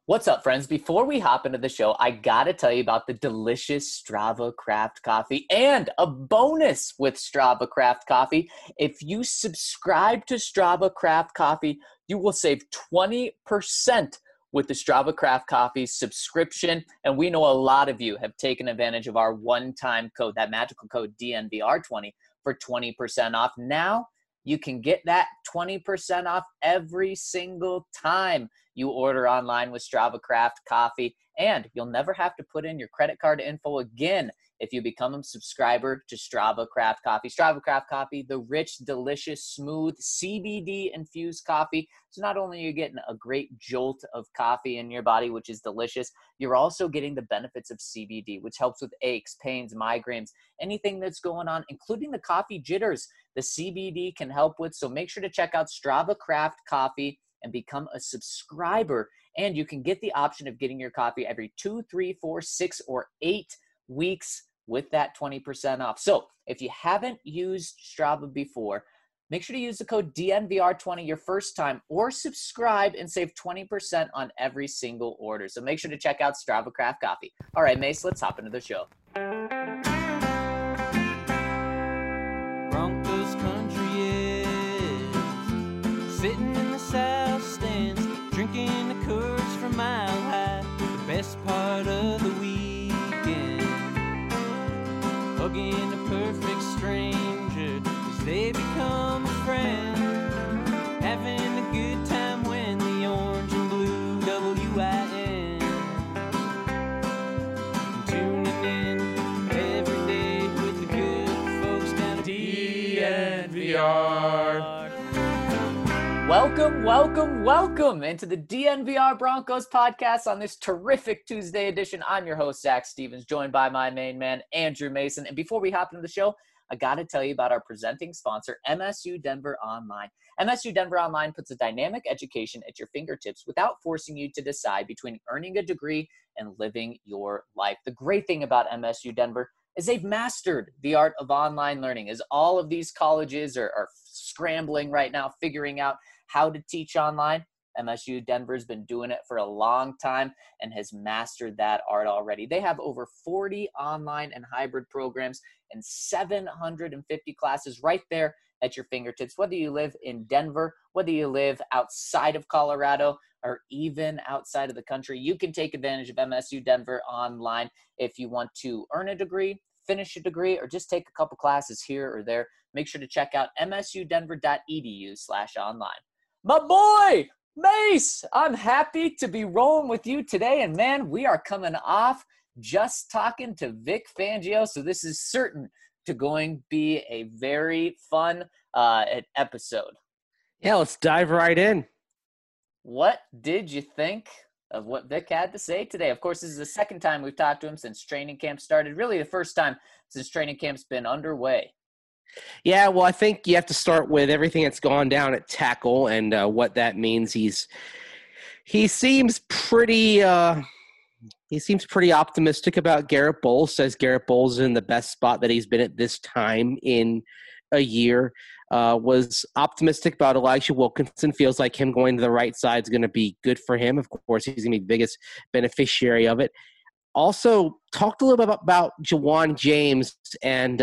What's up, friends? Before we hop into the show, I gotta tell you about the delicious Strava Craft Coffee and a bonus with Strava Craft Coffee. If you subscribe to Strava Craft Coffee, you will save 20% with the Strava Craft Coffee subscription. And we know a lot of you have taken advantage of our one-time code, that magical code DNVR20 for 20% off. Now you can get that 20% off every single time you order online with Strava Craft Coffee, and you'll never have to put in your credit card info again if you become a subscriber to Strava Craft Coffee. Strava Craft Coffee, the rich, delicious, smooth, CBD-infused coffee. So not only are you getting a great jolt of coffee in your body, which is delicious, you're also getting the benefits of CBD, which helps with aches, pains, migraines, anything that's going on, including the coffee jitters the CBD can help with. So make sure to check out Strava Craft Coffee and become a subscriber. And you can get the option of getting your coffee every 2, 3, 4, 6, or 8 weeks with that 20% off. So if you haven't used Strava before, make sure to use the code DNVR20 your first time, or subscribe and save 20% on every single order. So make sure to check out Strava Craft Coffee. All right, Mace, let's hop into the show. Broncos country is sitting in the south stands, drinking the Coors from Mile High. The best part of the weekend, hugging a perfect stranger as they become a friend, having a good time when the orange and blue WIN, tuning in every day with the good folks down at DNVR. Welcome into the DNVR Broncos podcast on this terrific Tuesday edition. I'm your host, Zach Stevens, joined by my main man, Andrew Mason. And before we hop into the show, I got to tell you about our presenting sponsor, MSU Denver Online. MSU Denver Online puts a dynamic education at your fingertips without forcing you to decide between earning a degree and living your life. The great thing about MSU Denver is they've mastered the art of online learning, as all of these colleges are scrambling right now, figuring out how to teach online. MSU Denver's been doing it for a long time and has mastered that art already. They have over 40 online and hybrid programs and 750 classes right there at your fingertips. Whether you live in Denver, whether you live outside of Colorado, or even outside of the country, you can take advantage of MSU Denver Online if you want to earn a degree, finish a degree, or just take a couple classes here or there. Make sure to check out msudenver.edu/online. My boy, Mace, I'm happy to be rolling with you today. And man, we are coming off just talking to Vic Fangio. So this is certain to going to be a very fun episode. Yeah, let's dive right in. What did you think of what Vic had to say today? Of course, this is the second time we've talked to him since training camp started. Really the first time since training camp's been underway. Yeah, well, I think you have to start with everything that's gone down at tackle and what that means. He seems pretty optimistic about Garett Bolles. Says Garett Bolles is in the best spot that he's been at this time in a year. Was optimistic about Elijah Wilkinson. Feels like him going to the right side is going to be good for him. Of course, he's going to be the biggest beneficiary of it. Also, talked a little bit about Ja'Wuan James and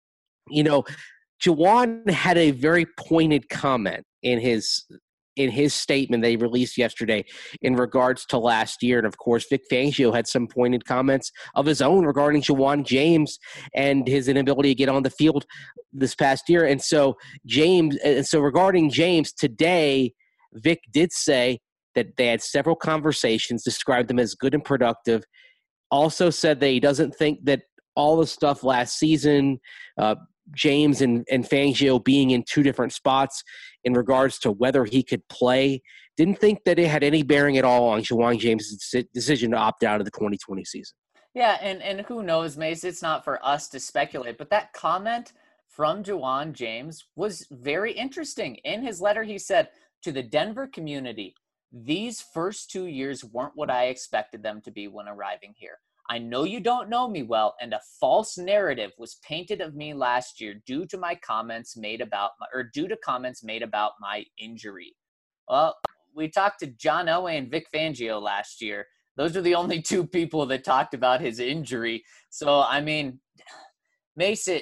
Ja'Wuan had a very pointed comment in his statement they released yesterday in regards to last year. And, of course, Vic Fangio had some pointed comments of his own regarding Ja'Wuan James and his inability to get on the field this past year. And so regarding James, today Vic did say that they had several conversations, described them as good and productive, also said that he doesn't think that all the stuff last season, James and Fangio being in two different spots in regards to whether he could play, didn't think that it had any bearing at all on Ja'Wuan James' decision to opt out of the 2020 season. Yeah, and who knows, Mace, it's not for us to speculate, but that comment from Ja'Wuan James was very interesting. In his letter, he said, to the Denver community, these first 2 years weren't what I expected them to be when arriving here. I know you don't know me well, and a false narrative was painted of me last year due to comments made about my injury. Well, we talked to John Elway and Vic Fangio last year. Those are the only two people that talked about his injury. So, I mean, Mason,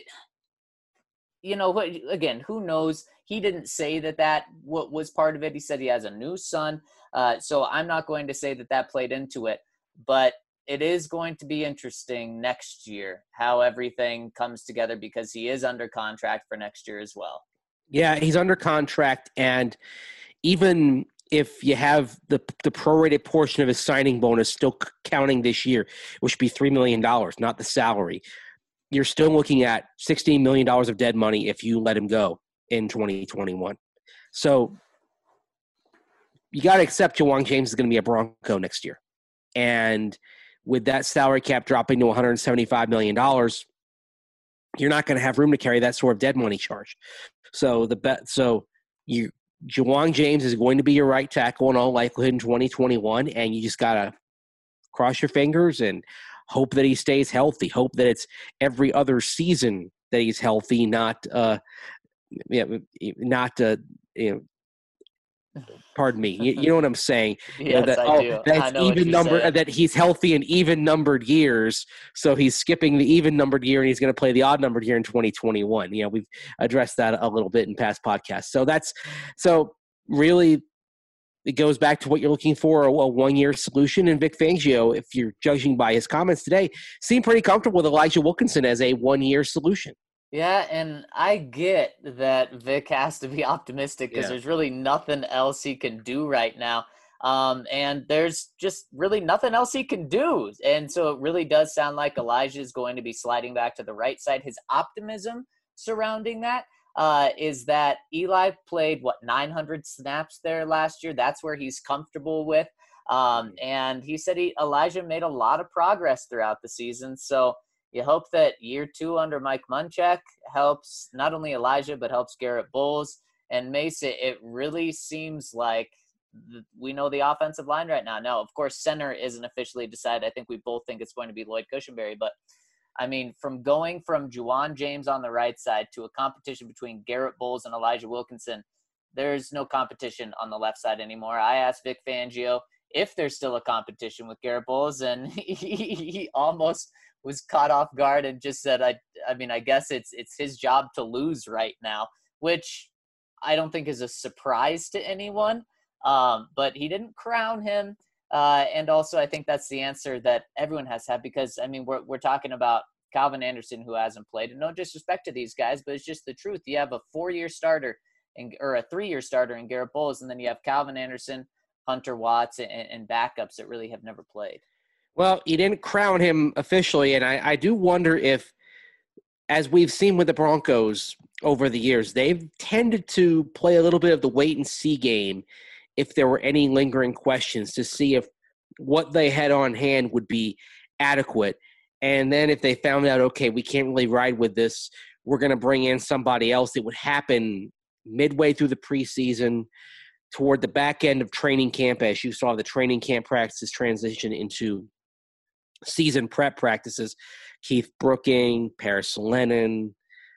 again, who knows? He didn't say that what was part of it. He said he has a new son. So I'm not going to say that played into it. But it is going to be interesting next year how everything comes together because he is under contract for next year as well. Yeah, he's under contract, and even if you have the prorated portion of his signing bonus still counting this year, which would be $3 million, not the salary, you're still looking at $16 million of dead money if you let him go in 2021. So you got to accept Ja'Wuan James is going to be a Bronco next year. And with that salary cap dropping to $175 million, you're not going to have room to carry that sort of dead money charge. So Ja'Wuan James is going to be your right tackle in all likelihood in 2021, and you just got to cross your fingers and hope that he stays healthy. Hope that it's every other season that he's healthy, pardon me. You know what I'm saying? Yes, I do. That's even number that he's healthy in even numbered years. So he's skipping the even numbered year and he's going to play the odd numbered year in 2021. We've addressed that a little bit in past podcasts. So really it goes back to what you're looking for, a 1-year solution. And Vic Fangio, if you're judging by his comments today, seemed pretty comfortable with Elijah Wilkinson as a 1-year solution. Yeah, and I get that Vic has to be optimistic because there's really nothing else he can do right now. And there's just really nothing else he can do. And so it really does sound like Elijah is going to be sliding back to the right side. His optimism surrounding that is that Eli played, 900 snaps there last year. That's where he's comfortable with. And he said Elijah made a lot of progress throughout the season. So you hope that year 2 under Mike Munchak helps not only Elijah, but helps Garrett Bowles. And Mason, it really seems like we know the offensive line right now. Now, of course, center isn't officially decided. I think we both think it's going to be Lloyd Cushenberry. But, I mean, from going from Ja'Wuan James on the right side to a competition between Garrett Bowles and Elijah Wilkinson, there's no competition on the left side anymore. I asked Vic Fangio if there's still a competition with Garrett Bowles, and he almost – was caught off guard and just said, I guess it's his job to lose right now, which I don't think is a surprise to anyone. But he didn't crown him. And also I think that's the answer that everyone has to have because, I mean, we're talking about Calvin Anderson who hasn't played. And no disrespect to these guys, but it's just the truth. You have a 4-year starter or a 3-year starter in Garrett Bowles, and then you have Calvin Anderson, Hunter Watts, and backups that really have never played. Well, you didn't crown him officially, and I do wonder if, as we've seen with the Broncos over the years, they've tended to play a little bit of the wait-and-see game if there were any lingering questions to see if what they had on hand would be adequate. And then if they found out, okay, we can't really ride with this, we're going to bring in somebody else. It would happen midway through the preseason, toward the back end of training camp, as you saw the training camp practices transition into season prep practices. Keith Brooking, Paris Lennon,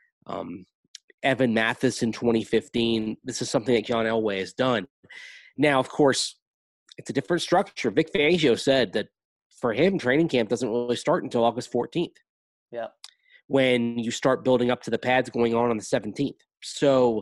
Evan Mathis in 2015. This is something that John Elway has done. Now, of course, it's a different structure. Vic Fangio said that for him, training camp doesn't really start until August 14th. Yeah. When you start building up to the pads going on the 17th. So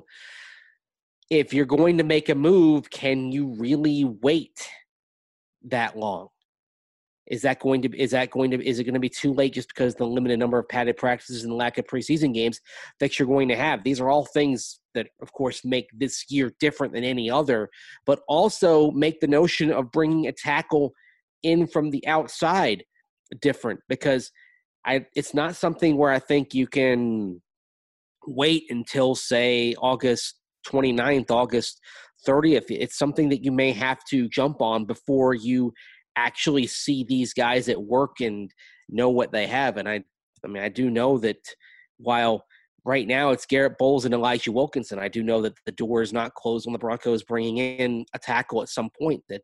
if you're going to make a move, can you really wait that long? Is it going to be too late just because of the limited number of padded practices and lack of preseason games that you're going to have? These are all things that, of course, make this year different than any other, but also make the notion of bringing a tackle in from the outside different because it's not something where I think you can wait until, say, August 29th, August 30th. It's something that you may have to jump on before you actually see these guys at work and know what they have. And I do know that while right now it's Garrett Bowles and Elijah Wilkinson, I do know that the door is not closed on the Broncos bringing in a tackle at some point, that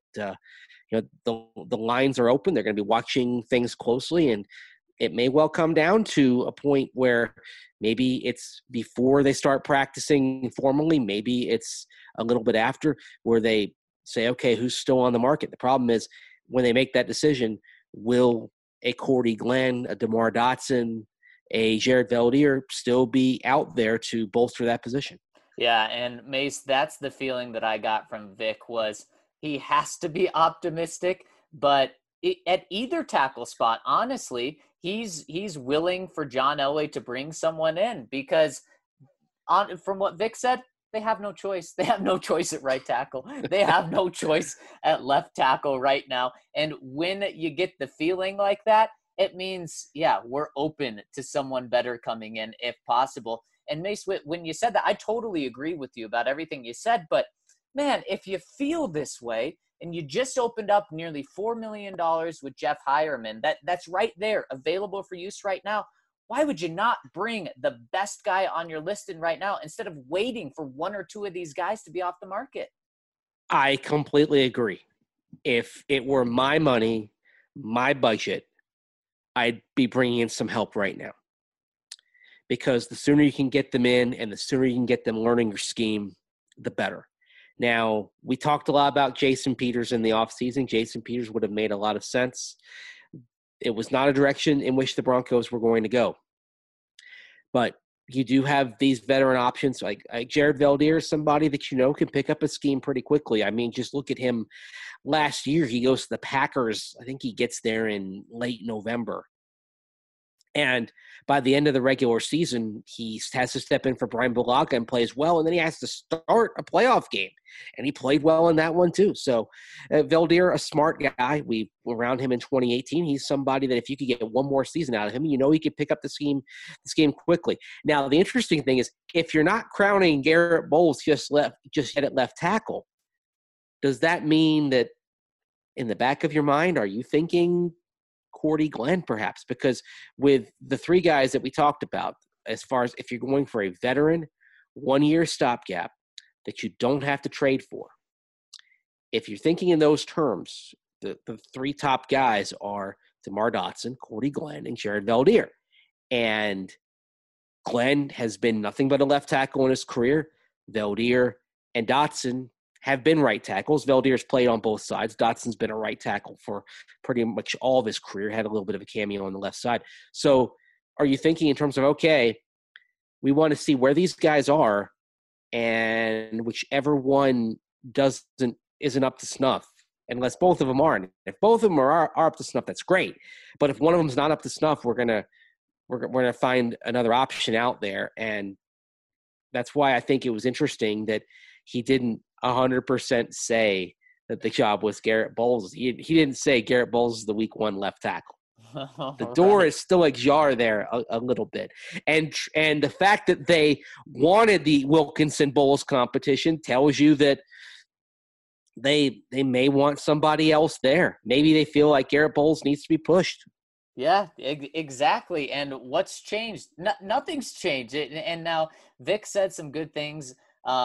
the lines are open. They're going to be watching things closely, and it may well come down to a point where maybe it's before they start practicing formally, maybe it's a little bit after, where they say, okay, who's still on the market? The problem is when they make that decision, will a Cordy Glenn, a DeMar Dotson, a Jared Veldheer still be out there to bolster that position? Yeah, and Mace, that's the feeling that I got from Vic was he has to be optimistic, but at either tackle spot, honestly, he's willing for John Elway to bring someone in because from what Vic said, they have no choice. They have no choice at right tackle. They have no choice at left tackle right now. And when you get the feeling like that, it means, yeah, we're open to someone better coming in if possible. And Mace, when you said that, I totally agree with you about everything you said. But man, if you feel this way and you just opened up nearly $4 million with Jeff Hireman, that's right there available for use right now. Why would you not bring the best guy on your listing right now instead of waiting for one or two of these guys to be off the market? I completely agree. If it were my money, my budget, I'd be bringing in some help right now. Because the sooner you can get them in and the sooner you can get them learning your scheme, the better. Now, we talked a lot about Jason Peters in the offseason. Jason Peters would have made a lot of sense. It was not a direction in which the Broncos were going to go. But you do have these veteran options like Jared Veldheer is somebody that can pick up a scheme pretty quickly. I mean, just look at him. Last year, he goes to the Packers. I think he gets there in late November. And by the end of the regular season, he has to step in for Brian Bulaga and plays well, and then he has to start a playoff game. And he played well in that one too. So Veldheer, a smart guy. We were around him in 2018. He's somebody that if you could get one more season out of him, he could pick up this game quickly. Now, the interesting thing is if you're not crowning Garrett Bowles just yet at left tackle, does that mean that in the back of your mind, are you thinking Cordy Glenn perhaps? Because with the three guys that we talked about, as far as if you're going for a veteran 1-year stopgap that you don't have to trade for, if you're thinking in those terms, the three top guys are DeMar Dotson, Cordy Glenn, and Jared Veldheer. And Glenn has been nothing but a left tackle in his career. Veldheer and Dotson have been right tackles. Veldheer's played on both sides. Dotson's been a right tackle for pretty much all of his career, had a little bit of a cameo on the left side. So are you thinking in terms of, okay, we want to see where these guys are, and whichever one isn't up to snuff, unless both of them aren't. If both of them are up to snuff, that's great. But if one of them's not up to snuff, we're gonna find another option out there. And that's why I think it was interesting that he didn't 100% say that the job was Garrett Bowles. He didn't say Garrett Bowles is the week 1 left tackle. The door is still ajar there a little bit. And the fact that they wanted the Wilkinson-Bowles competition tells you that they may want somebody else there. Maybe they feel like Garrett Bowles needs to be pushed. Yeah, exactly. And what's changed? Nothing's changed. And now Vic said some good things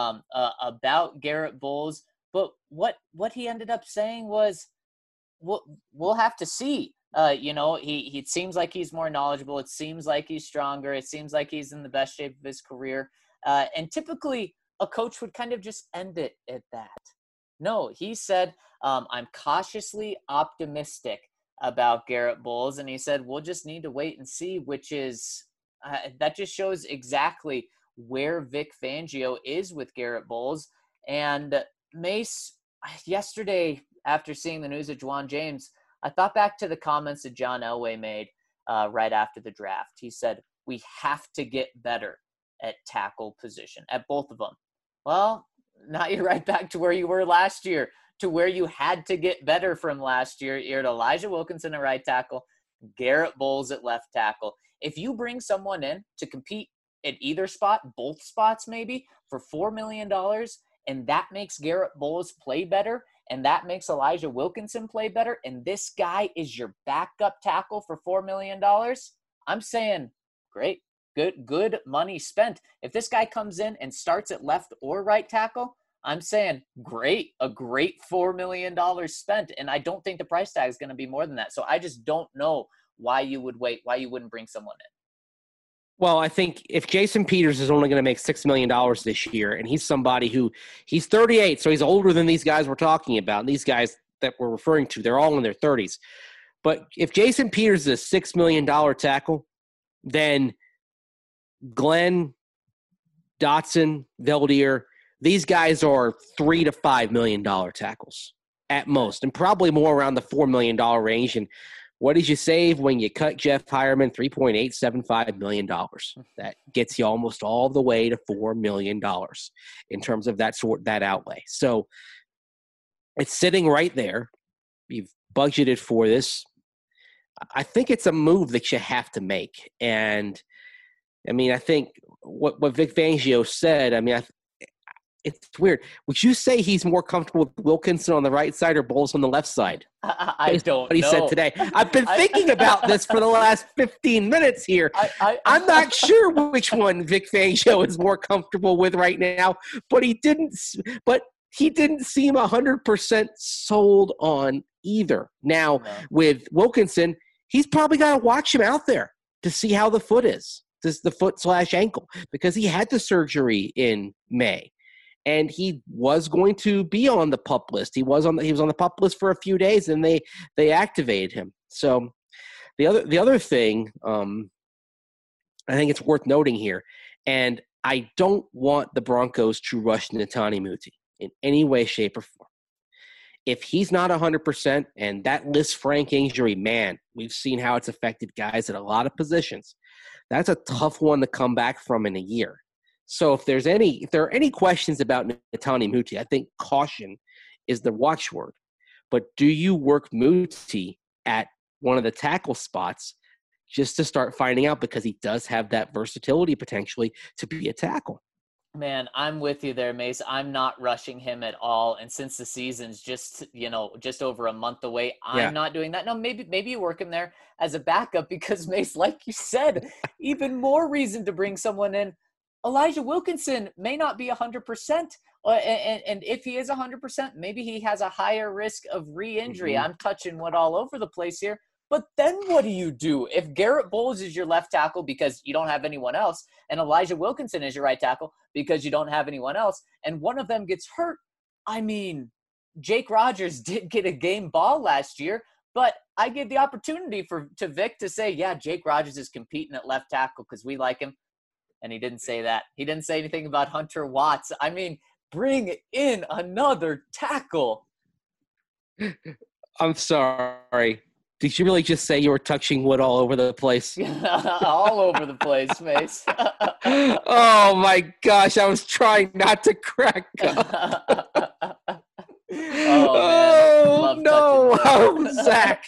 about Garrett Bowles, but what he ended up saying was, we'll have to see. He seems like he's more knowledgeable. It seems like he's stronger. It seems like he's in the best shape of his career. And typically a coach would kind of just end it at that. No, he said, I'm cautiously optimistic about Garrett Bowles. And he said, we'll just need to wait and see, which is, that just shows exactly where Vic Fangio is with Garrett Bowles. And Mace, yesterday, after seeing the news of Juwan James, I thought back to the comments that John Elway made right after the draft. He said, we have to get better at tackle position, at both of them. Well, now you're right back to where you were last year, to where you had to get better from last year. You're at Elijah Wilkinson at right tackle, Garrett Bowles at left tackle. If you bring someone in to compete at either spot, both spots maybe, for $4 million, and that makes Garrett Bowles play better, and that makes Elijah Wilkinson play better, and this guy is your backup tackle for $4 million, I'm saying, great, good money spent. If this guy comes in and starts at left or right tackle, I'm saying great, a great $4 million spent, and I don't think the price tag is going to be more than that. So I just don't know why you would wait, why you wouldn't bring someone in. Well, I think if Jason Peters is only going to make $6 million this year, and he's somebody who he's 38, so he's older than these guys we're talking about. And these guys that we're referring to, they're all in their 30s. But if Jason Peters is a $6 million tackle, then Glenn, Dotson, Veldier, these guys are $3 to $5 million tackles at most, and probably more around the $4 million range. And what did you save when you cut Jeff Hireman? $3.875 million. That gets you almost all the way to $4 million in terms of that outlay. So it's sitting right there. You've budgeted for this. I think it's a move that you have to make. And I mean, I think what Vic Fangio said, I mean, it's weird. Would you say he's more comfortable with Wilkinson on the right side or Bowles on the left side? I don't know. What he said today. I've been thinking about this for the last 15 minutes here. I'm not sure which one Vic Fangio is more comfortable with right now, but he didn't seem 100% sold on either. Now, with Wilkinson, he's probably got to watch him out there to see how the foot is, the foot/ankle, because he had the surgery in May. And he was going to be on the PUP list. He was on the PUP list for a few days, and they activated him. So the other thing, I think it's worth noting here, and I don't want the Broncos to rush Netane Muti in any way, shape, or form. If he's not 100%, and that Lisfranc injury, man, we've seen how it's affected guys at a lot of positions. That's a tough one to come back from in a year. So if there are any questions about Netane Muti, I think caution is the watchword. But do you work Muti at one of the tackle spots just to start finding out, because he does have that versatility potentially to be a tackle? Man, I'm with you there, Mace. I'm not rushing him at all. And since the season's just over a month away, I'm not doing that. No, maybe you work him there as a backup because, Mace, like you said, even more reason to bring someone in. Elijah Wilkinson may not be 100%. And if he is 100%, maybe he has a higher risk of re-injury. Mm-hmm. I'm touching wood all over the place here. But then what do you do? If Garrett Bowles is your left tackle because you don't have anyone else, and Elijah Wilkinson is your right tackle because you don't have anyone else, and one of them gets hurt, I mean, Jake Rogers did get a game ball last year, but I give the opportunity to Vic to say, yeah, Jake Rogers is competing at left tackle because we like him. And he didn't say that. He didn't say anything about Hunter Watts. I mean, bring in another tackle. I'm sorry. Did you really just say you were touching wood all over the place? All over the place, Mace. Oh, my gosh. I was trying not to crack up. Oh, man. No. Zach.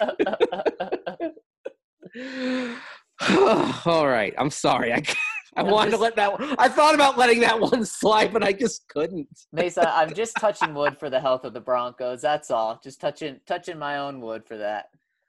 All right. I'm sorry. I wanted to let that one. I thought about letting that one slide, but I just couldn't. Mesa, I'm just touching wood for the health of the Broncos. That's all. Just touching my own wood for that.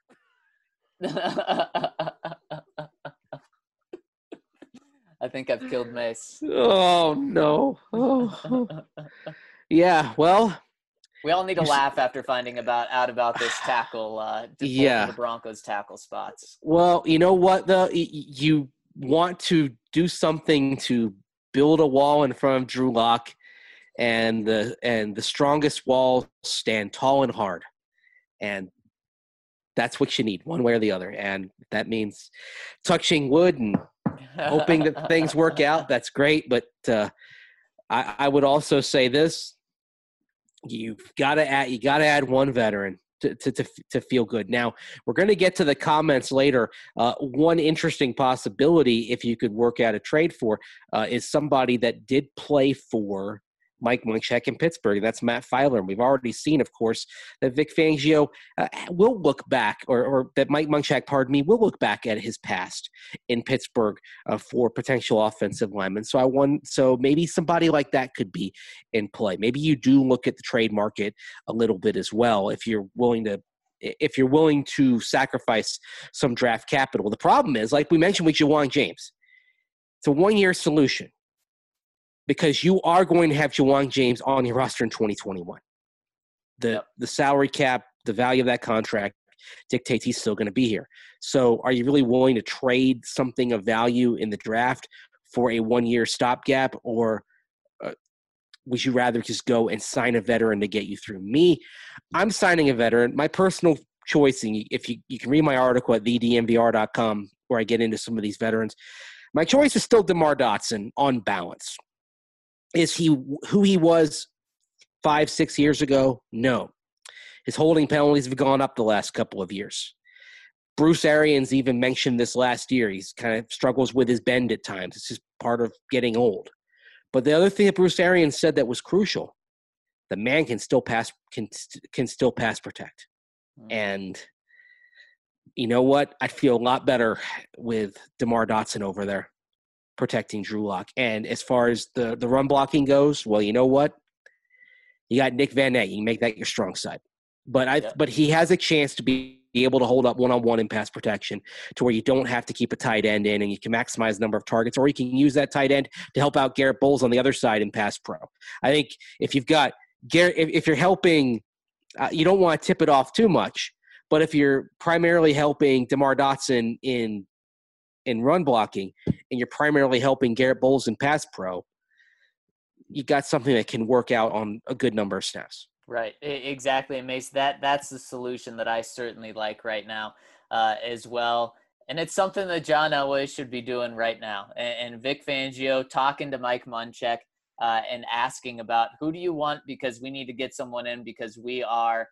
I think I've killed Mace. Oh no. Oh. Yeah. Well, we all need to laugh after finding out about this tackle. The Broncos tackle spots. Well, you know what though, you want to do something to build a wall in front of Drew Lock, and the strongest walls stand tall and hard, and that's what you need, one way or the other. And that means touching wood and hoping that things work out. That's great, but I would also say this: you got to add one veteran to feel good. Now, we're going to get to the comments later. One interesting possibility, if you could work out a trade for, is somebody that did play for Mike Munchak in Pittsburgh. That's Matt Filer. And we've already seen, of course, that Vic Fangio will look back, or that Mike Munchak, will look back at his past in Pittsburgh for potential offensive linemen. So maybe somebody like that could be in play. Maybe you do look at the trade market a little bit as well if you're willing to sacrifice some draft capital. The problem is, like we mentioned with Ja'Wuan James, it's a one-year solution, because you are going to have Ja'Wuan James on your roster in 2021. The salary cap, the value of that contract dictates he's still going to be here. So are you really willing to trade something of value in the draft for a 1-year stopgap, or would you rather just go and sign a veteran to get you through? Me, I'm signing a veteran. My personal choice, and if you can read my article at thedmvr.com where I get into some of these veterans, my choice is still DeMar Dotson on balance. Is he who he was 5-6 years ago? No. His holding penalties have gone up the last couple of years. Bruce Arians even mentioned this last year. He's kind of struggles with his bend at times. It's just part of getting old. But the other thing that Bruce Arians said that was crucial, the man can still pass protect. And you know what? I'd feel a lot better with DeMar Dotson over there protecting Drew Lock. And as far as the run blocking goes, well, you know what? You got Nick Van Ness. You can make that your strong side. But he has a chance to be able to hold up one-on-one in pass protection to where you don't have to keep a tight end in and you can maximize the number of targets, or you can use that tight end to help out Garrett Bowles on the other side in pass pro. I think if you've got Garrett, if you're helping, you don't want to tip it off too much, but if you're primarily helping DeMar Dotson in run blocking and you're primarily helping Garrett Bowles in pass pro, you got something that can work out on a good number of snaps. Right, exactly, and Mace, that's the solution that I certainly like right now as well. And it's something that John Elway should be doing right now. And Vic Fangio talking to Mike Munchak and asking about who do you want, because we need to get someone in because we are,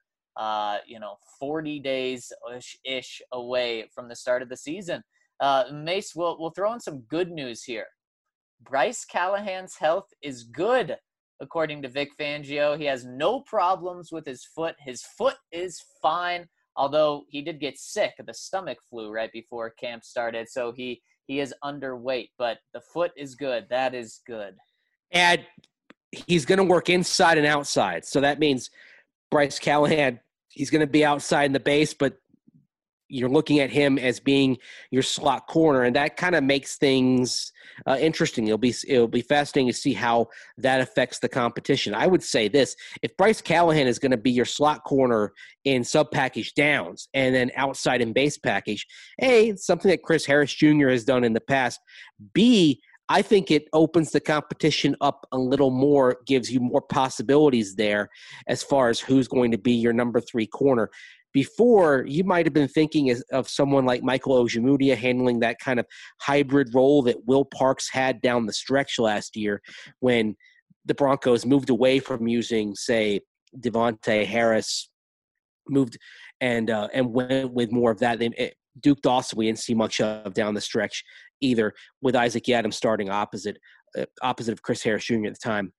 40 days-ish away from the start of the season. Mace, we'll throw in some good news here. Bryce Callahan's health is good. According to Vic Fangio, he has no problems with his foot. His foot is fine, although he did get sick of the stomach flu right before camp started, so he is underweight, but the foot is good. That is good. And he's going to work inside and outside, so that means Bryce Callahan, he's going to be outside in the base, but you're looking at him as being your slot corner, and that kind of makes things interesting. It'll be fascinating to see how that affects the competition. I would say this: if Bryce Callahan is going to be your slot corner in sub package downs and then outside in base package, A, it's something that Chris Harris Jr. has done in the past. B, I think it opens the competition up a little more, gives you more possibilities there as far as who's going to be your number 3 corner. Before, you might have been thinking of someone like Michael Ojemudia handling that kind of hybrid role that Will Parks had down the stretch last year when the Broncos moved away from using, say, Devontae Harris, moved and went with more of that. Duke Dawson, we didn't see much of down the stretch either, with Isaac Yiadom starting opposite of Chris Harris Jr. at the time.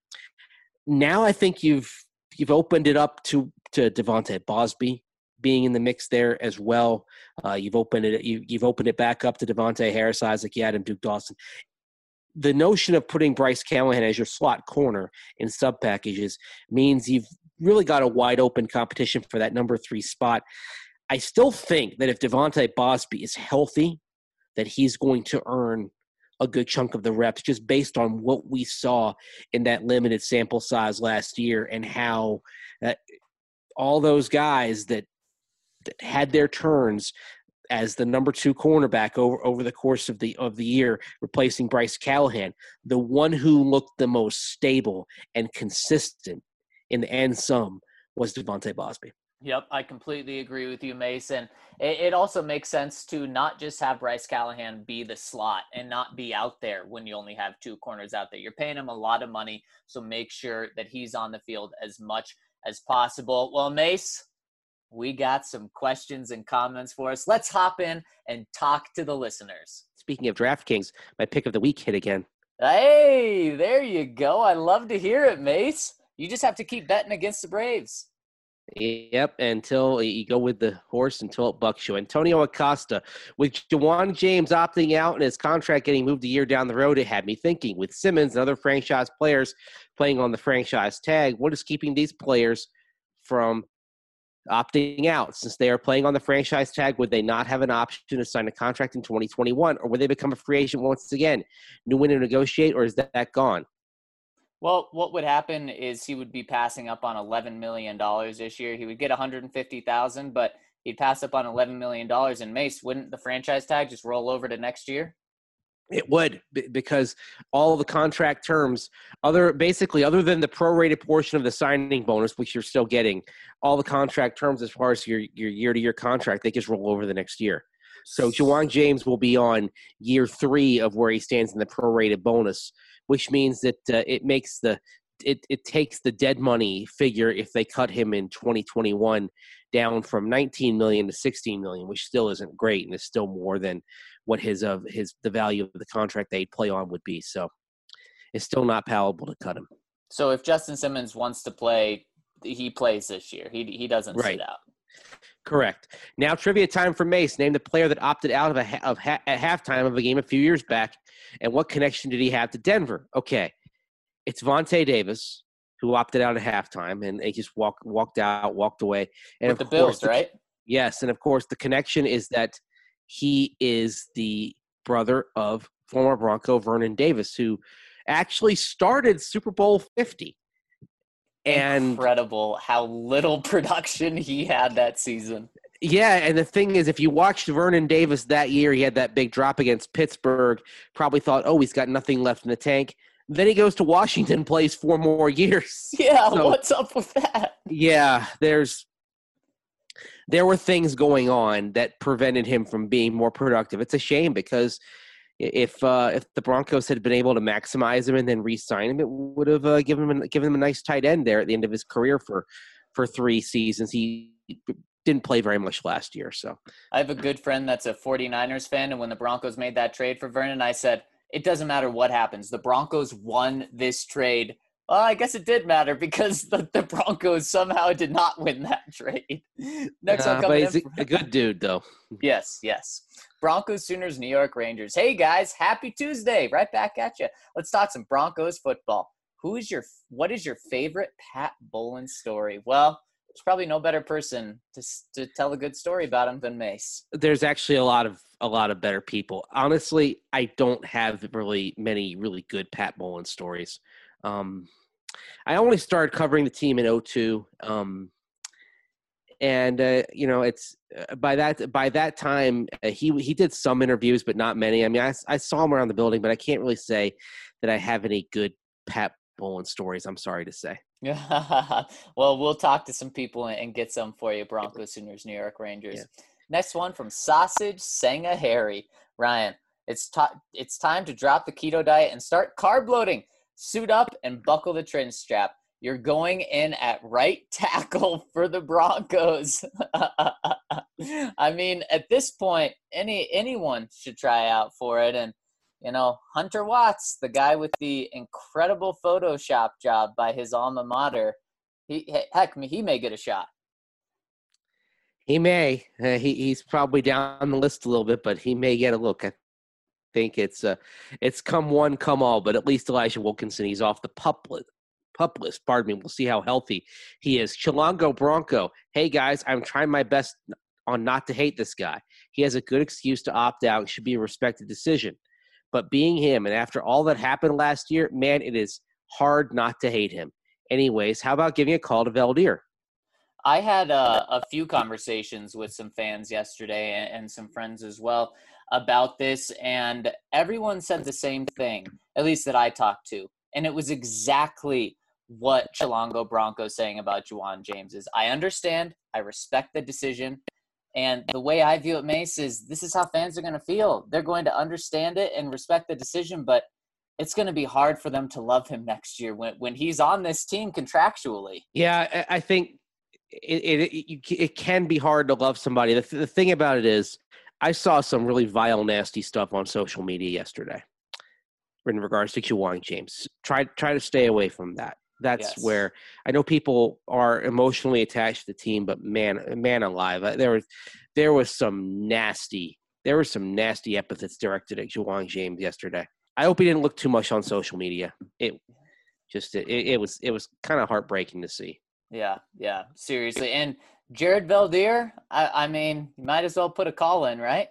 Now I think you've opened it up to Devontae Bosby being in the mix there as well. You've opened it back up to Devontae Harris, Isaac Yiadom, Duke Dawson. The notion of putting Bryce Callahan as your slot corner in sub packages means you've really got a wide open competition for that number 3 spot. I still think that if Devontae Bosby is healthy, that he's going to earn a good chunk of the reps just based on what we saw in that limited sample size last year and how all those guys that had their turns as the number 2 cornerback over the course of the year, replacing Bryce Callahan, the one who looked the most stable and consistent in the end sum was Devontae Bosby. Yep, I completely agree with you, Mason. It also makes sense to not just have Bryce Callahan be the slot and not be out there when you only have 2 corners out there. You're paying him a lot of money, so make sure that he's on the field as much as possible. Well, Mace, we got some questions and comments for us. Let's hop in and talk to the listeners. Speaking of DraftKings, my pick of the week hit again. Hey, there you go. I love to hear it, Mace. You just have to keep betting against the Braves. Yep, until you go with the horse until it bucks you. Antonio Acosta, with Ja'Wuan James opting out and his contract getting moved a year down the road, it had me thinking, with Simmons and other franchise players playing on the franchise tag, what is keeping these players from opting out? Since they are playing on the franchise tag, would they not have an option to sign a contract in 2021, or would they become a free agent once again? New window negotiate, or is that gone? Well, what would happen is he would be passing up on $11 million this year. He would get $150,000, but he'd pass up on $11 million in Mace. Wouldn't the franchise tag just roll over to next year? It would, because all of the contract terms, other than the prorated portion of the signing bonus, which you're still getting, all the contract terms as far as your year-to-year contract, they just roll over the next year. So Ja'Wuan James will be on year 3 of where he stands in the prorated bonus, which means that it takes the dead money figure if they cut him in 2021 down from $19 million to $16 million, which still isn't great and is still more than what the value of the contract they'd play on would be. So it's still not palatable to cut him. So if Justin Simmons wants to play, he plays this year. He doesn't right. sit out. Correct. Now trivia time for Mace. Name the player that opted out at halftime of a game a few years back, and what connection did he have to Denver? Okay, it's Vontae Davis, who opted out at halftime, and he just walked away. And with the Bills, right? Yes, and of course the connection is that he is the brother of former Bronco Vernon Davis, who actually started Super Bowl 50. And incredible how little production he had that season. Yeah, and the thing is, if you watched Vernon Davis that year, he had that big drop against Pittsburgh, probably thought, oh, he's got nothing left in the tank. Then he goes to Washington, plays 4 more years. Yeah, so, what's up with that? Yeah, there were things going on that prevented him from being more productive. It's a shame, because if the Broncos had been able to maximize him and then re-sign him, it would have given him a nice tight end there at the end of his career for 3 seasons. He didn't play very much last year. So I have a good friend that's a 49ers fan, and when the Broncos made that trade for Vernon, I said, it doesn't matter what happens. The Broncos won this trade. Well, I guess it did matter, because the Broncos somehow did not win that trade. Next one coming but he's a good dude, though. Yes. Broncos, Sooners, New York Rangers. Hey, guys, happy Tuesday. Right back at you. Let's talk some Broncos football. What is your favorite Pat Bowlen story? Well, there's probably no better person to tell a good story about him than Mace. There's actually a lot of better people. Honestly, I don't have really many really good Pat Bowlen stories. I only started covering the team in 2002. It's by that time he did some interviews, but not many. I mean, I saw him around the building, but I can't really say that I have any good Pat Bowlen stories. I'm sorry to say. Yeah. Well, we'll talk to some people and get some for you. Broncos, Sooners, New York Rangers. Yeah. Next one from Sausage Senga Harry. Ryan, it's time to drop the keto diet and start carb loading. Suit up and buckle the trim strap. You're going in at right tackle for the Broncos. I mean, at this point, anyone should try out for it. And, Hunter Watts, the guy with the incredible Photoshop job by his alma mater, he may get a shot. He may. He's probably down the list a little bit, but he may get a look. I think it's come one, come all, but at least Elijah Wilkinson, he's off the pup list. Pardon me. We'll see how healthy he is. Chilongo Bronco. Hey, guys, I'm trying my best on not to hate this guy. He has a good excuse to opt out. It should be a respected decision. But being him, and after all that happened last year, man, it is hard not to hate him. Anyways, how about giving a call to Valdir? I had a few conversations with some fans yesterday and some friends as well about this, and everyone said the same thing, at least that I talked to. And it was exactly what Chilongo Bronco saying about Ja'Wuan James is. I understand. I respect the decision. And the way I view it, Mace, is this is how fans are going to feel. They're going to understand it and respect the decision, but it's going to be hard for them to love him next year when he's on this team contractually. Yeah, I think it can be hard to love somebody. The thing about it is, I saw some really vile, nasty stuff on social media yesterday in regards to Ja'Wuan James. Try to stay away from that. That's yes. Where I know people are emotionally attached to the team, but man alive, there was some nasty epithets directed at Ja'Wuan James yesterday. I hope he didn't look too much on social media. It was kind of heartbreaking to see. Yeah, seriously. And Jared Valdir, I mean, you might as well put a call in, right?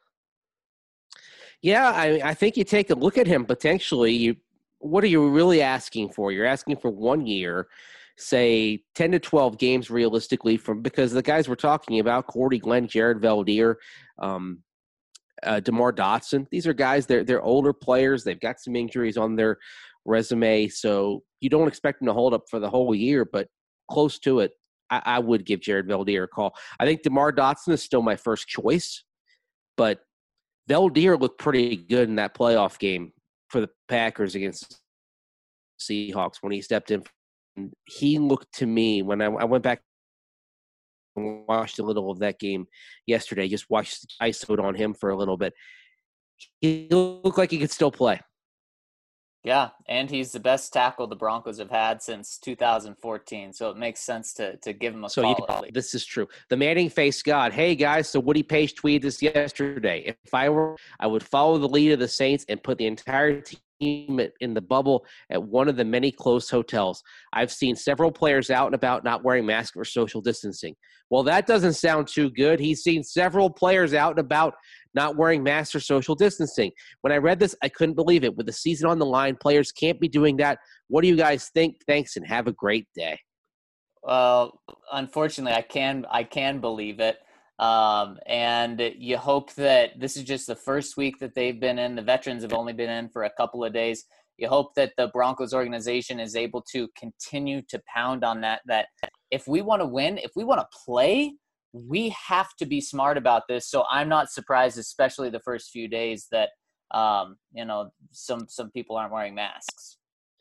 Yeah, I think you take a look at him potentially. What are you really asking for? You're asking for 1 year. say 10 to 12 games realistically because the guys we're talking about, Cordy Glenn, Jared Valdir, DeMar Dotson, these are guys, they're older players. They've got some injuries on their resume, so you don't expect them to hold up for the whole year, but close to it. I would give Jared Valdir a call. I think DeMar Dotson is still my first choice, but Valdir looked pretty good in that playoff game for the Packers against Seahawks when he stepped in. He looked to me, when I went back and watched a little of that game yesterday, just watched ISO'd on him for a little bit. He looked like he could still play. Yeah, and he's the best tackle the Broncos have had since 2014, so it makes sense to give him a call. This is true. The Manning face God. Hey, guys, so Woody Paige tweeted this yesterday. If I were, I would follow the lead of the Saints and put the entire team in the bubble at one of the many closed hotels. I've seen several players out and about not wearing masks or social distancing. Well, that doesn't sound too good. He's seen several players out and about not wearing masks or social distancing. When I read this, I couldn't believe it. With the season on the line, players can't be doing that. What do you guys think? Thanks, and have a great day. Well, unfortunately, I can believe it. And you hope that this is just the first week that they've been in. The veterans have only been in for a couple of days. You hope that the Broncos organization is able to continue to pound on that if we want to win, if we want to play, we have to be smart about this. So I'm not surprised, especially the first few days, that some people aren't wearing masks.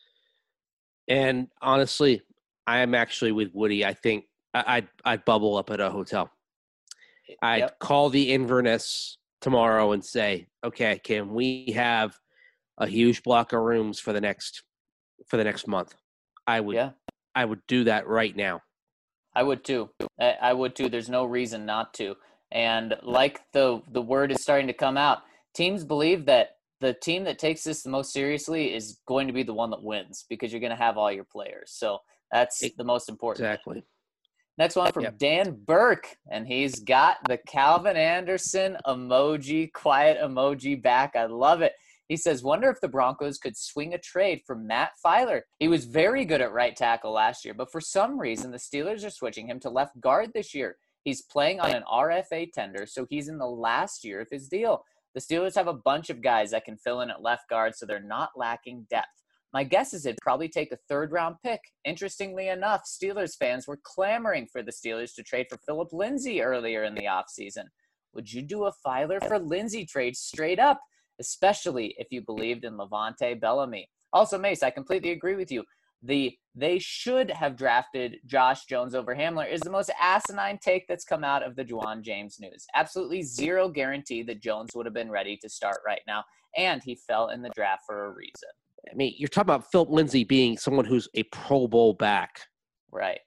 And honestly, I am actually with Woody. I think I'd bubble up at a hotel. I'd call the Inverness tomorrow and say, okay, can we have a huge block of rooms for the next month? I would do that right now. I would too. There's no reason not to. And like the word is starting to come out, teams believe that the team that takes this the most seriously is going to be the one that wins because you're going to have all your players. So that's the most important. Exactly. Next one from Dan Burke, and he's got the Calvin Anderson emoji, quiet emoji back. I love it. He says, wonder if the Broncos could swing a trade for Matt Filer. He was very good at right tackle last year, but for some reason, the Steelers are switching him to left guard this year. He's playing on an RFA tender, so he's in the last year of his deal. The Steelers have a bunch of guys that can fill in at left guard, so they're not lacking depth. My guess is it'd probably take a third-round pick. Interestingly enough, Steelers fans were clamoring for the Steelers to trade for Philip Lindsay earlier in the offseason. Would you do a Filer for Lindsay trade straight up? Especially if you believed in Levante Bellamy. Also, Mace, I completely agree with you. They should have drafted Josh Jones over Hamler is the most asinine take that's come out of the Juwan James news. Absolutely zero guarantee that Jones would have been ready to start right now, and he fell in the draft for a reason. I mean, you're talking about Philip Lindsay being someone who's a Pro Bowl back. Right.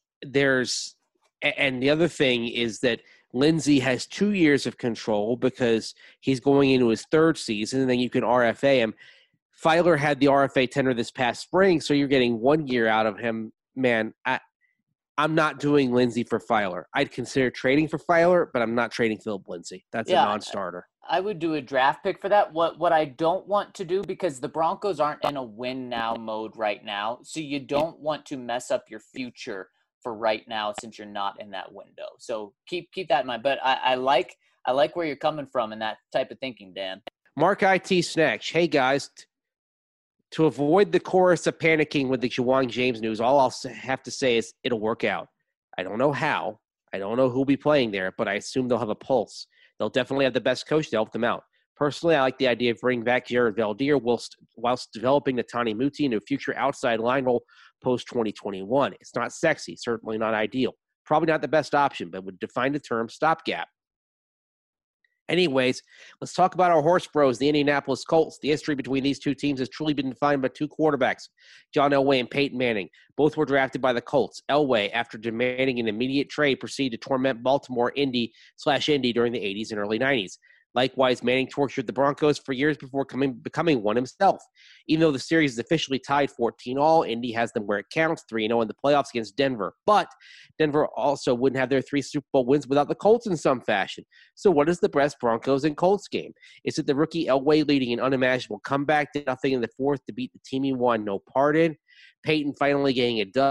And the other thing is that Lindsay has 2 years of control because he's going into his third season, and then you can RFA him. Filer had the RFA tender this past spring, so you're getting 1 year out of him. Man, I'm not doing Lindsay for Filer. I'd consider trading for Filer, but I'm not trading Philip Lindsay. That's a non-starter. I would do a draft pick for that. What I don't want to do, because the Broncos aren't in a win-now mode right now, so you don't want to mess up your future for right now since you're not in that window. So keep that in mind. But I like where you're coming from in that type of thinking, Dan. Mark IT Snatch. Hey, guys. To avoid the chorus of panicking with the Juwan James news, all I'll have to say is it'll work out. I don't know how. I don't know who'll be playing there, but I assume they'll have a pulse. They'll definitely have the best coach to help them out. Personally, I like the idea of bringing back Jared Valdir whilst developing Netani Muti into a future outside line role post-2021. It's not sexy, certainly not ideal. Probably not the best option, but would define the term stopgap. Anyways, let's talk about our horse bros, the Indianapolis Colts. The history between these two teams has truly been defined by two quarterbacks, John Elway and Peyton Manning. Both were drafted by the Colts. Elway, after demanding an immediate trade, proceeded to torment Baltimore Indy during the 80s and early 90s. Likewise, Manning tortured the Broncos for years before becoming one himself. Even though the series is officially tied 14-all, Indy has them where it counts, 3-0 in the playoffs against Denver. But Denver also wouldn't have their 3 Super Bowl wins without the Colts in some fashion. So what is the best Broncos and Colts game? Is it the rookie Elway leading an unimaginable comeback, did nothing in the fourth to beat the team he won no part in? Peyton finally getting it done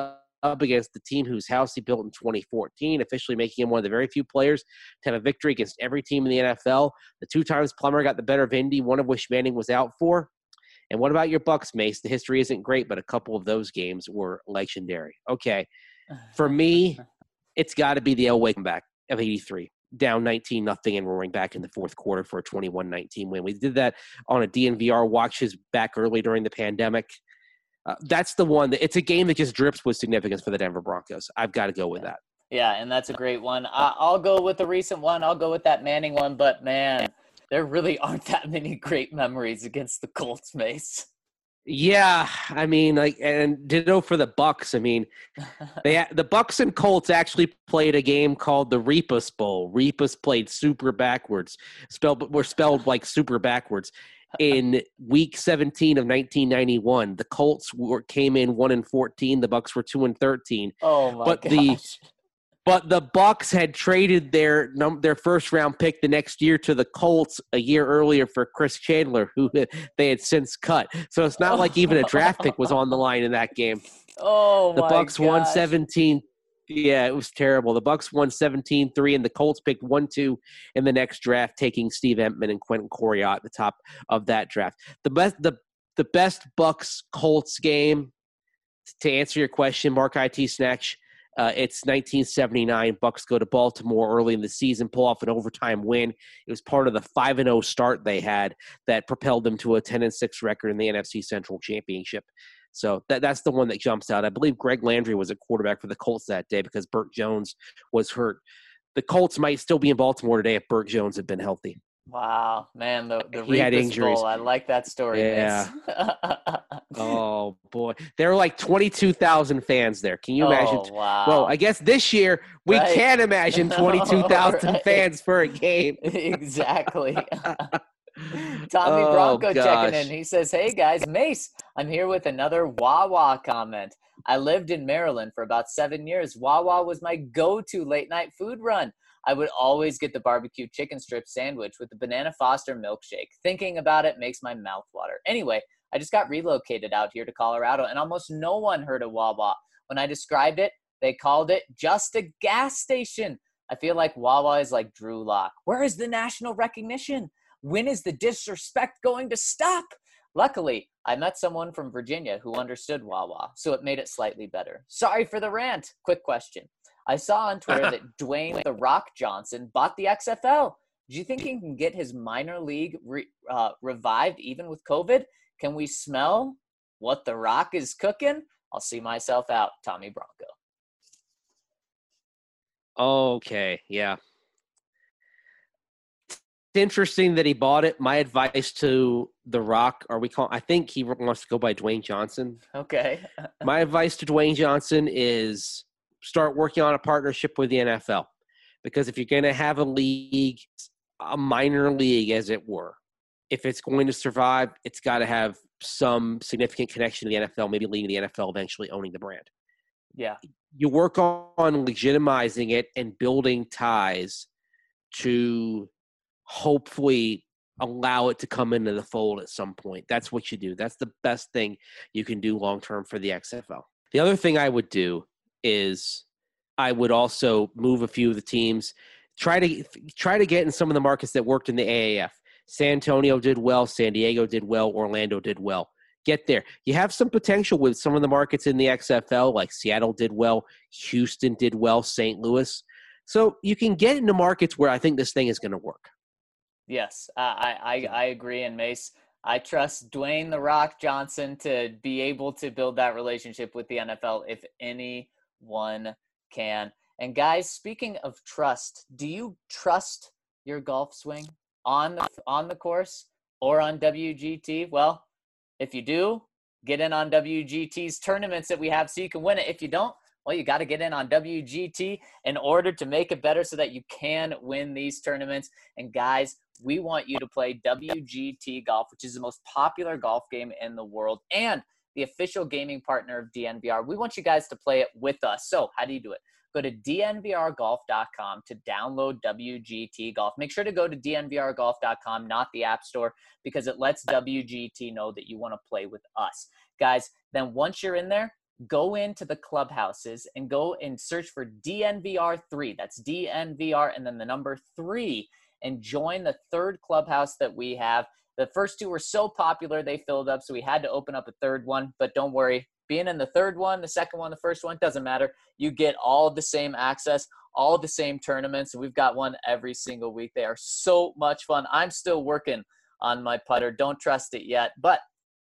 up against the team whose house he built in 2014, officially making him one of the very few players to have a victory against every team in the NFL. The 2 times Plummer got the better of Indy, one of which Manning was out for. And what about your Bucks, Mace? The history isn't great, but a couple of those games were legendary. Okay. For me, it's got to be the Elway comeback of 83. Down 19-0 and roaring back in the fourth quarter for a 21-19 win. We did that on a DNVR watches back early during the pandemic. That's the one it's a game that just drips with significance for the Denver Broncos. I've got to go with that. Yeah, and that's a great one. I'll go with the recent one. I'll go with that Manning one, but man, there really aren't that many great memories against the Colts, Mace. Yeah, I mean, and ditto for the Bucks. I mean, the Bucks and Colts actually played a game called the Repas Bowl. Repas played super backwards, were spelled like super backwards. In Week 17 of 1991, the Colts came in 1-14. The Bucks were 2-13. Oh my gosh! But the Bucks had traded their first-round pick the next year to the Colts a year earlier for Chris Chandler, who they had since cut. So it's not like even a draft pick was on the line in that game. Oh, the Bucks won 17. Yeah, it was terrible. The Bucks won 17-3, and the Colts picked 1-2 in the next draft, taking Steve Entman and Quentin Coryatt at the top of that draft. The best Bucks-Colts game, to answer your question, Mark IT Snatch, it's 1979. Bucks go to Baltimore early in the season, pull off an overtime win. It was part of the 5-0 start they had that propelled them to a 10-6 record in the NFC Central Championship. So that's the one that jumps out. I believe Greg Landry was a quarterback for the Colts that day because Burt Jones was hurt. The Colts might still be in Baltimore today if Burt Jones had been healthy. Wow, man, the he had injuries. Bowl, I like that story. Yeah. Oh boy, there were like 22,000 fans there. Can you imagine? Wow. Well, I guess this year we can't imagine 22,000 Right. fans for a game. Exactly. Tommy Bronco checking in. He says, "Hey guys, Mace, I'm here with another Wawa comment. I lived in Maryland for about 7 years. Wawa was my go-to late night food run. I would always get the barbecue chicken strip sandwich with the Banana Foster milkshake. Thinking about it makes my mouth water. Anyway, I just got relocated out here to Colorado, and almost no one heard of Wawa. When I described it, they called it just a gas station. I feel like Wawa is like Drew Lock. Where is the national recognition? When is the disrespect going to stop? Luckily, I met someone from Virginia who understood Wawa, so it made it slightly better. Sorry for the rant. Quick question. I saw on Twitter that Dwayne The Rock Johnson bought the XFL. Do you think he can get his minor league revived even with COVID? Can we smell what The Rock is cooking? I'll see myself out, Tommy Bronco. Okay, yeah. It's interesting that he bought it. My advice to The Rock, I think he wants to go by Dwayne Johnson. Okay. My advice to Dwayne Johnson is start working on a partnership with the NFL. Because if you're going to have a league, a minor league as it were, if it's going to survive, it's got to have some significant connection to the NFL, maybe leading the NFL eventually owning the brand. Yeah. You work on legitimizing it and building ties to hopefully allow it to come into the fold at some point. That's what you do. That's the best thing you can do long-term for the XFL. The other thing I would do is I would also move a few of the teams, try to get in some of the markets that worked in the AAF. San Antonio did well. San Diego did well. Orlando did well. Get there. You have some potential with some of the markets in the XFL, like Seattle did well, Houston did well, St. Louis. So you can get into markets where I think this thing is going to work. Yes, I agree. And Mace, I trust Dwayne The Rock Johnson to be able to build that relationship with the NFL if anyone can. And guys, speaking of trust, do you trust your golf swing on the course or on WGT? Well, if you do, get in on WGT's tournaments that we have so you can win it. If you don't, well, you got to get in on WGT in order to make it better so that you can win these tournaments. And guys, we want you to play WGT Golf, which is the most popular golf game in the world and the official gaming partner of DNVR. We want you guys to play it with us. So how do you do it? Go to dnvrgolf.com to download WGT Golf. Make sure to go to dnvrgolf.com, not the App Store, because it lets WGT know that you want to play with us. Guys, then once you're in there, go into the clubhouses and go and search for DNVR3. That's DNVR and then the number 3, and join the third clubhouse that we have. The first 2 were so popular, they filled up, so we had to open up a third one. But don't worry, being in the third one, the second one, the first one, doesn't matter. You get all the same access, all the same tournaments, and we've got one every single week. They are so much fun. I'm still working on my putter. Don't trust it yet, but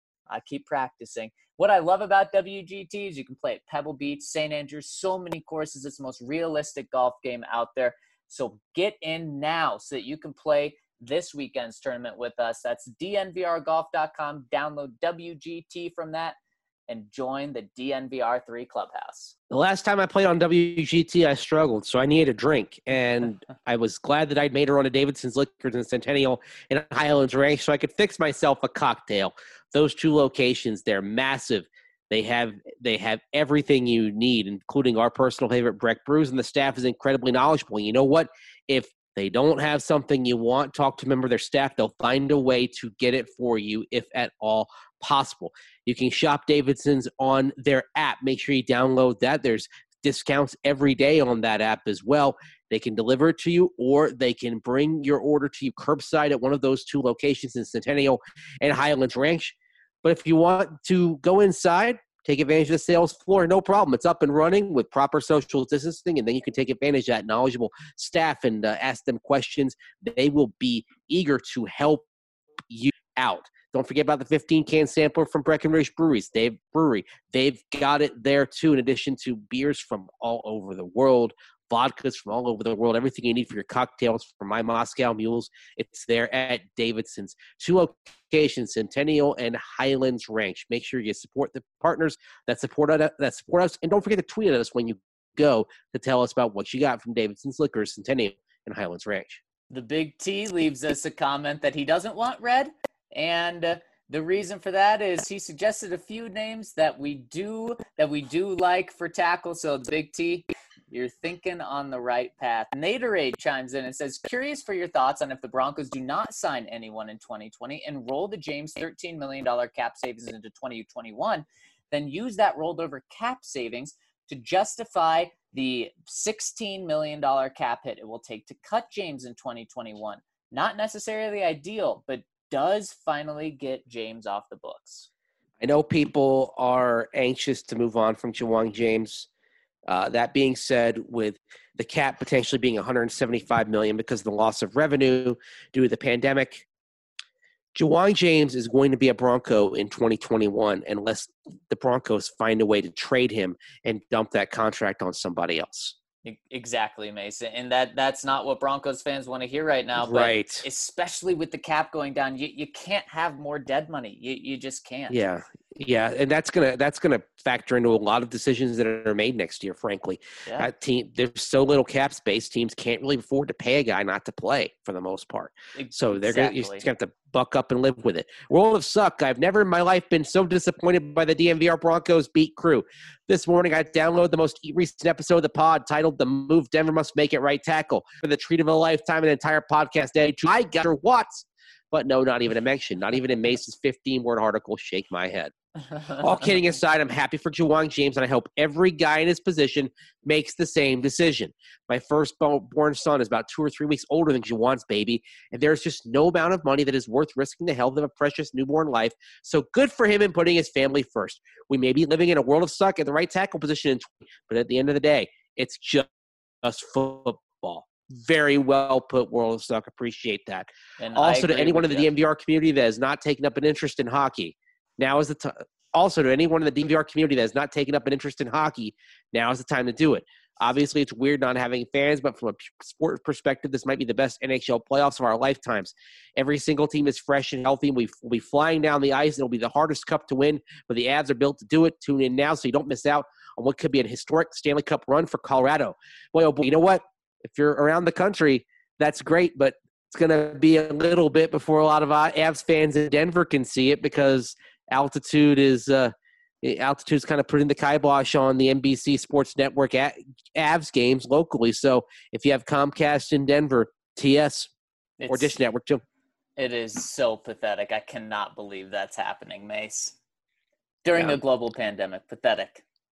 I keep practicing. What I love about WGT is you can play at Pebble Beach, St. Andrews, so many courses. It's the most realistic golf game out there. So get in now so that you can play this weekend's tournament with us. That's dnvrgolf.com. Download WGT from that and join the DNVR3 clubhouse. The last time I played on WGT, I struggled, so I needed a drink. And I was glad that I'd made her on to Davidson's Liquors in Centennial and Highlands Ranch so I could fix myself a cocktail. Those 2 locations, they're massive. They have everything you need, including our personal favorite Breck brews, and the staff is incredibly knowledgeable. You know what? If they don't have something you want, talk to a member of their staff. They'll find a way to get it for you if at all possible. You can shop Davidson's on their app. Make sure you download that. There's discounts every day on that app as well. They can deliver it to you, or they can bring your order to you curbside at one of those 2 locations in Centennial and Highlands Ranch. But if you want to go inside, take advantage of the sales floor, no problem. It's up and running with proper social distancing, and then you can take advantage of that knowledgeable staff and ask them questions. They will be eager to help you out. Don't forget about the 15-can sampler from Breckenridge Brewery. They've got it there, too, in addition to beers from all over the world, vodkas from all over the world, everything you need for your cocktails from My Moscow Mules. It's there at Davidson's. 2 locations, Centennial and Highlands Ranch. Make sure you support the partners that support us. And don't forget to tweet at us when you go to tell us about what you got from Davidson's Liquors, Centennial and Highlands Ranch. The Big T leaves us a comment that he doesn't want red. And the reason for that is he suggested a few names that we do like for tackle. So the Big T, you're thinking on the right path. Naderade chimes in and says, curious for your thoughts on if the Broncos do not sign anyone in 2020 and roll the James $13 million cap savings into 2021, then use that rolled over cap savings to justify the $16 million cap hit it will take to cut James in 2021. Not necessarily ideal, but does finally get James off the books. I know people are anxious to move on from Ja'Wuan James. That being said, with the cap potentially being $175 million because of the loss of revenue due to the pandemic, Ja'Wuan James is going to be a Bronco in 2021 unless the Broncos find a way to trade him and dump that contract on somebody else. Exactly, Mason. And that's not what Broncos fans want to hear right now. But right. Especially with the cap going down, you can't have more dead money. You just can't. Yeah. Yeah, and that's gonna factor into a lot of decisions that are made next year. Frankly, Yeah. There's so little cap space. Teams can't really afford to pay a guy not to play for the most part. So you just have to buck up and live with it. World of Suck. I've never in my life been so disappointed by the DNVR Broncos beat crew. This morning, I downloaded the most recent episode of the pod titled "The Move Denver Must Make It Right Tackle" for the treat of a lifetime, an entire podcast day. I got your Watts. But no, not even a mention. Not even in Mace's 15-word article. Shake my head. All kidding aside, I'm happy for Ja'Wuan James, and I hope every guy in his position makes the same decision. My firstborn son is about 2 or 3 weeks older than Ja'Wuan's baby, and there's just no amount of money that is worth risking the health of a precious newborn life. So good for him in putting his family first. We may be living in a world of suck at the right tackle position, but at the end of the day, it's just football. Very well put, World of Suck. Appreciate that. And also, to anyone in the DNVR community that has not taken up an interest in hockey, now is the time. Also, to anyone in the DNVR community that has not taken up an interest in hockey, now is the time to do it. Obviously, it's weird not having fans, but from a sport perspective, this might be the best NHL playoffs of our lifetimes. Every single team is fresh and healthy. We'll be flying down the ice. It'll be the hardest cup to win, but the Avs are built to do it. Tune in now so you don't miss out on what could be a historic Stanley Cup run for Colorado. Boy, oh boy, you know what? If you're around the country, that's great, but it's going to be a little bit before a lot of Avs fans in Denver can see it because altitude's kind of putting the kibosh on the NBC Sports Network Avs games locally. So if you have Comcast in Denver, TS or Dish Network too. It is so pathetic. I cannot believe that's happening, Mace. During a global pandemic. Pathetic.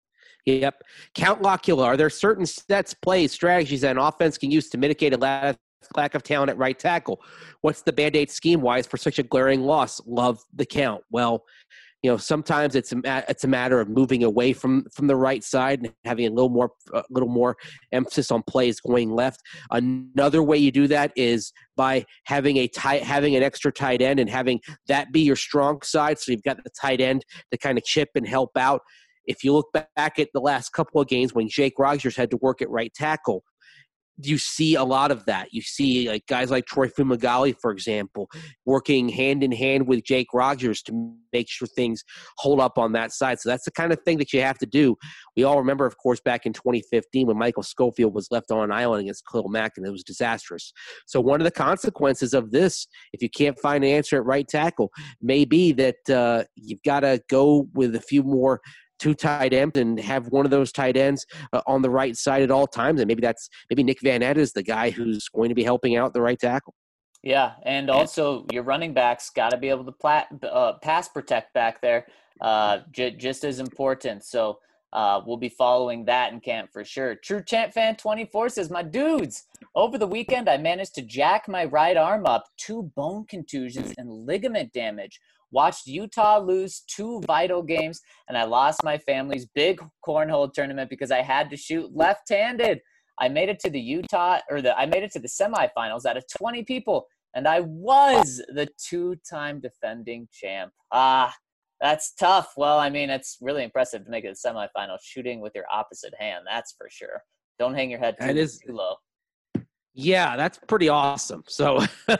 Yep. Count Locula. Are there certain sets, plays, strategies that an offense can use to mitigate a lack of talent at right tackle? What's the Band-Aid scheme-wise for such a glaring loss? Love the count. Well, sometimes it's a matter of moving away from the right side and having a little more emphasis on plays going left. Another way you do that is by having an extra tight end and having that be your strong side. So you've got the tight end to kind of chip and help out. If you look back at the last couple of games when Jake Rodgers had to work at right tackle, you see a lot of that. You see like guys like Troy Fumagalli, for example, working hand in hand with Jake Rodgers to make sure things hold up on that side. So that's the kind of thing that you have to do. We all remember, of course, back in 2015 when Michael Schofield was left on an island against Khalil Mack, and it was disastrous. So one of the consequences of this, if you can't find an answer at right tackle, may be that you've got to go with a few more two tight ends and have one of those tight ends on the right side at all times. And maybe Nick Van Ette is the guy who's going to be helping out the right tackle. Yeah, and also your running backs got to be able to pass protect back there, just as important. So we'll be following that in camp for sure. True Champ Fan 24 says, my dudes, over the weekend I managed to jack my right arm up, 2 bone contusions and ligament damage. Watched Utah lose 2 vital games, and I lost my family's big cornhole tournament because I had to shoot left-handed. I made it to the semifinals out of 20 people, and I was the 2-time defending champ. That's tough. Well, I mean, it's really impressive to make it to the semifinals shooting with your opposite hand. That's for sure. Don't hang your head too low. Yeah, that's pretty awesome. So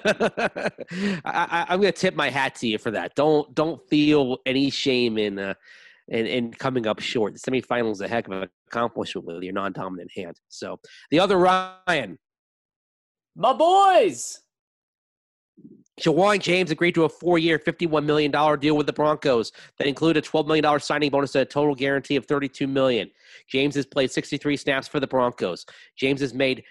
I'm going to tip my hat to you for that. Don't feel any shame in coming up short. The semifinal is a heck of an accomplishment with your non-dominant hand. So the other Ryan. My boys. Ja'Wuan James agreed to a 4-year, $51 million deal with the Broncos that included a $12 million signing bonus and a total guarantee of $32 million. James has played 63 snaps for the Broncos. James has made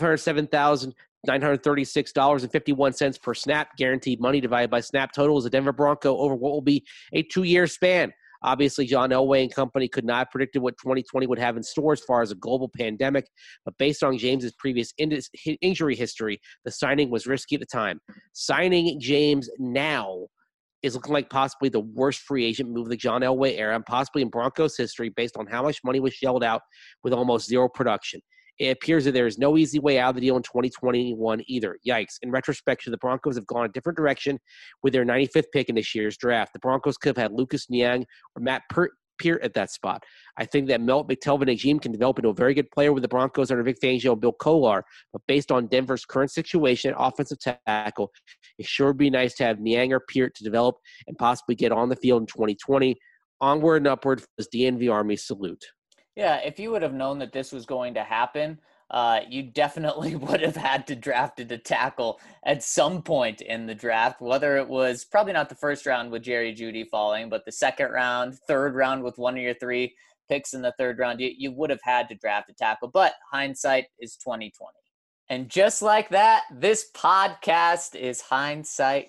$507,936.51 per snap. Guaranteed money divided by snap total is a Denver Bronco over what will be a 2-year span. Obviously, John Elway and company could not have predicted what 2020 would have in store as far as a global pandemic, but based on James's previous injury history, the signing was risky at the time. Signing James now is looking like possibly the worst free agent move of the John Elway era and possibly in Broncos history based on how much money was shelled out with almost zero production. It appears that there is no easy way out of the deal in 2021 either. Yikes. In retrospect, the Broncos have gone a different direction with their 95th pick in this year's draft. The Broncos could have had Lucas Niang or Matt Peart at that spot. I think that Melt McTelvin-Agim can develop into a very good player with the Broncos under Vic Fangio and Bill Kolar, but based on Denver's current situation at offensive tackle, it sure would be nice to have Niang or Peart to develop and possibly get on the field in 2020. Onward and upward as DNV Army salute. Yeah, if you would have known that this was going to happen, you definitely would have had to draft a tackle at some point in the draft, whether it was probably not the first round with Jerry Jeudy falling, but the second round, third round with one of your 3 picks in the third round. You would have had to draft a tackle, but hindsight is 20/20. And just like that, this podcast is hindsight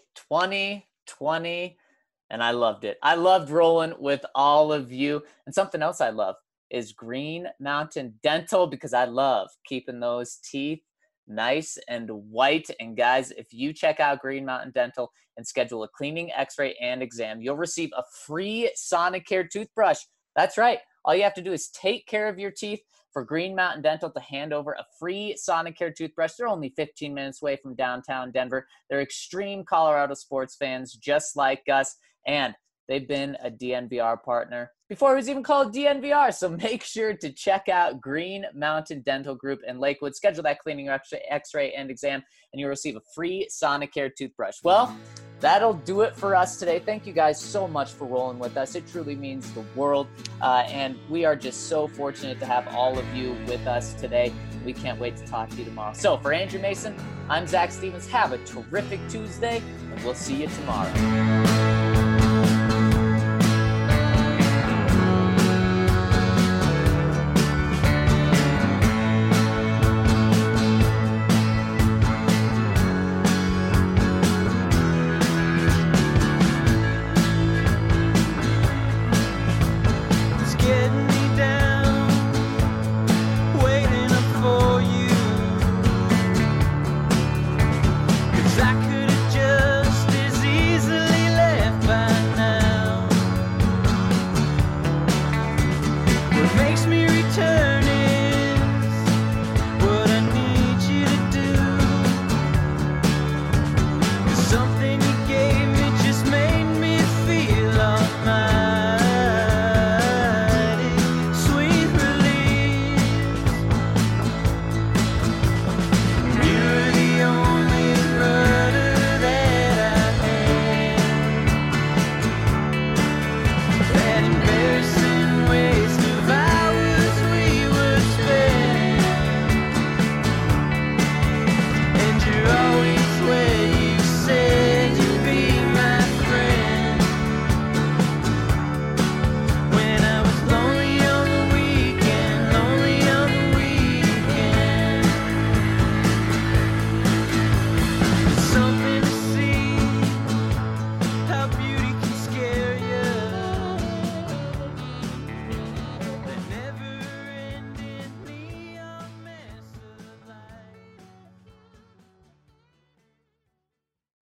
20/20, and I loved it. I loved rolling with all of you, and something else I love is Green Mountain Dental, because I love keeping those teeth nice and white. And guys, if you check out Green Mountain Dental and schedule a cleaning, x-ray, and exam, you'll receive a free Sonicare toothbrush. That's right. All you have to do is take care of your teeth for Green Mountain Dental to hand over a free Sonicare toothbrush. They're only 15 minutes away from downtown Denver. They're extreme Colorado sports fans just like us, and they've been a DNVR partner before it was even called DNVR. So make sure to check out Green Mountain Dental Group in Lakewood. Schedule that cleaning, x-ray, and exam, and you'll receive a free Sonicare toothbrush. Well, that'll do it for us today. Thank you guys so much for rolling with us. It truly means the world. And we are just so fortunate to have all of you with us today. We can't wait to talk to you tomorrow. So for Andrew Mason, I'm Zach Stevens. Have a terrific Tuesday, and we'll see you tomorrow.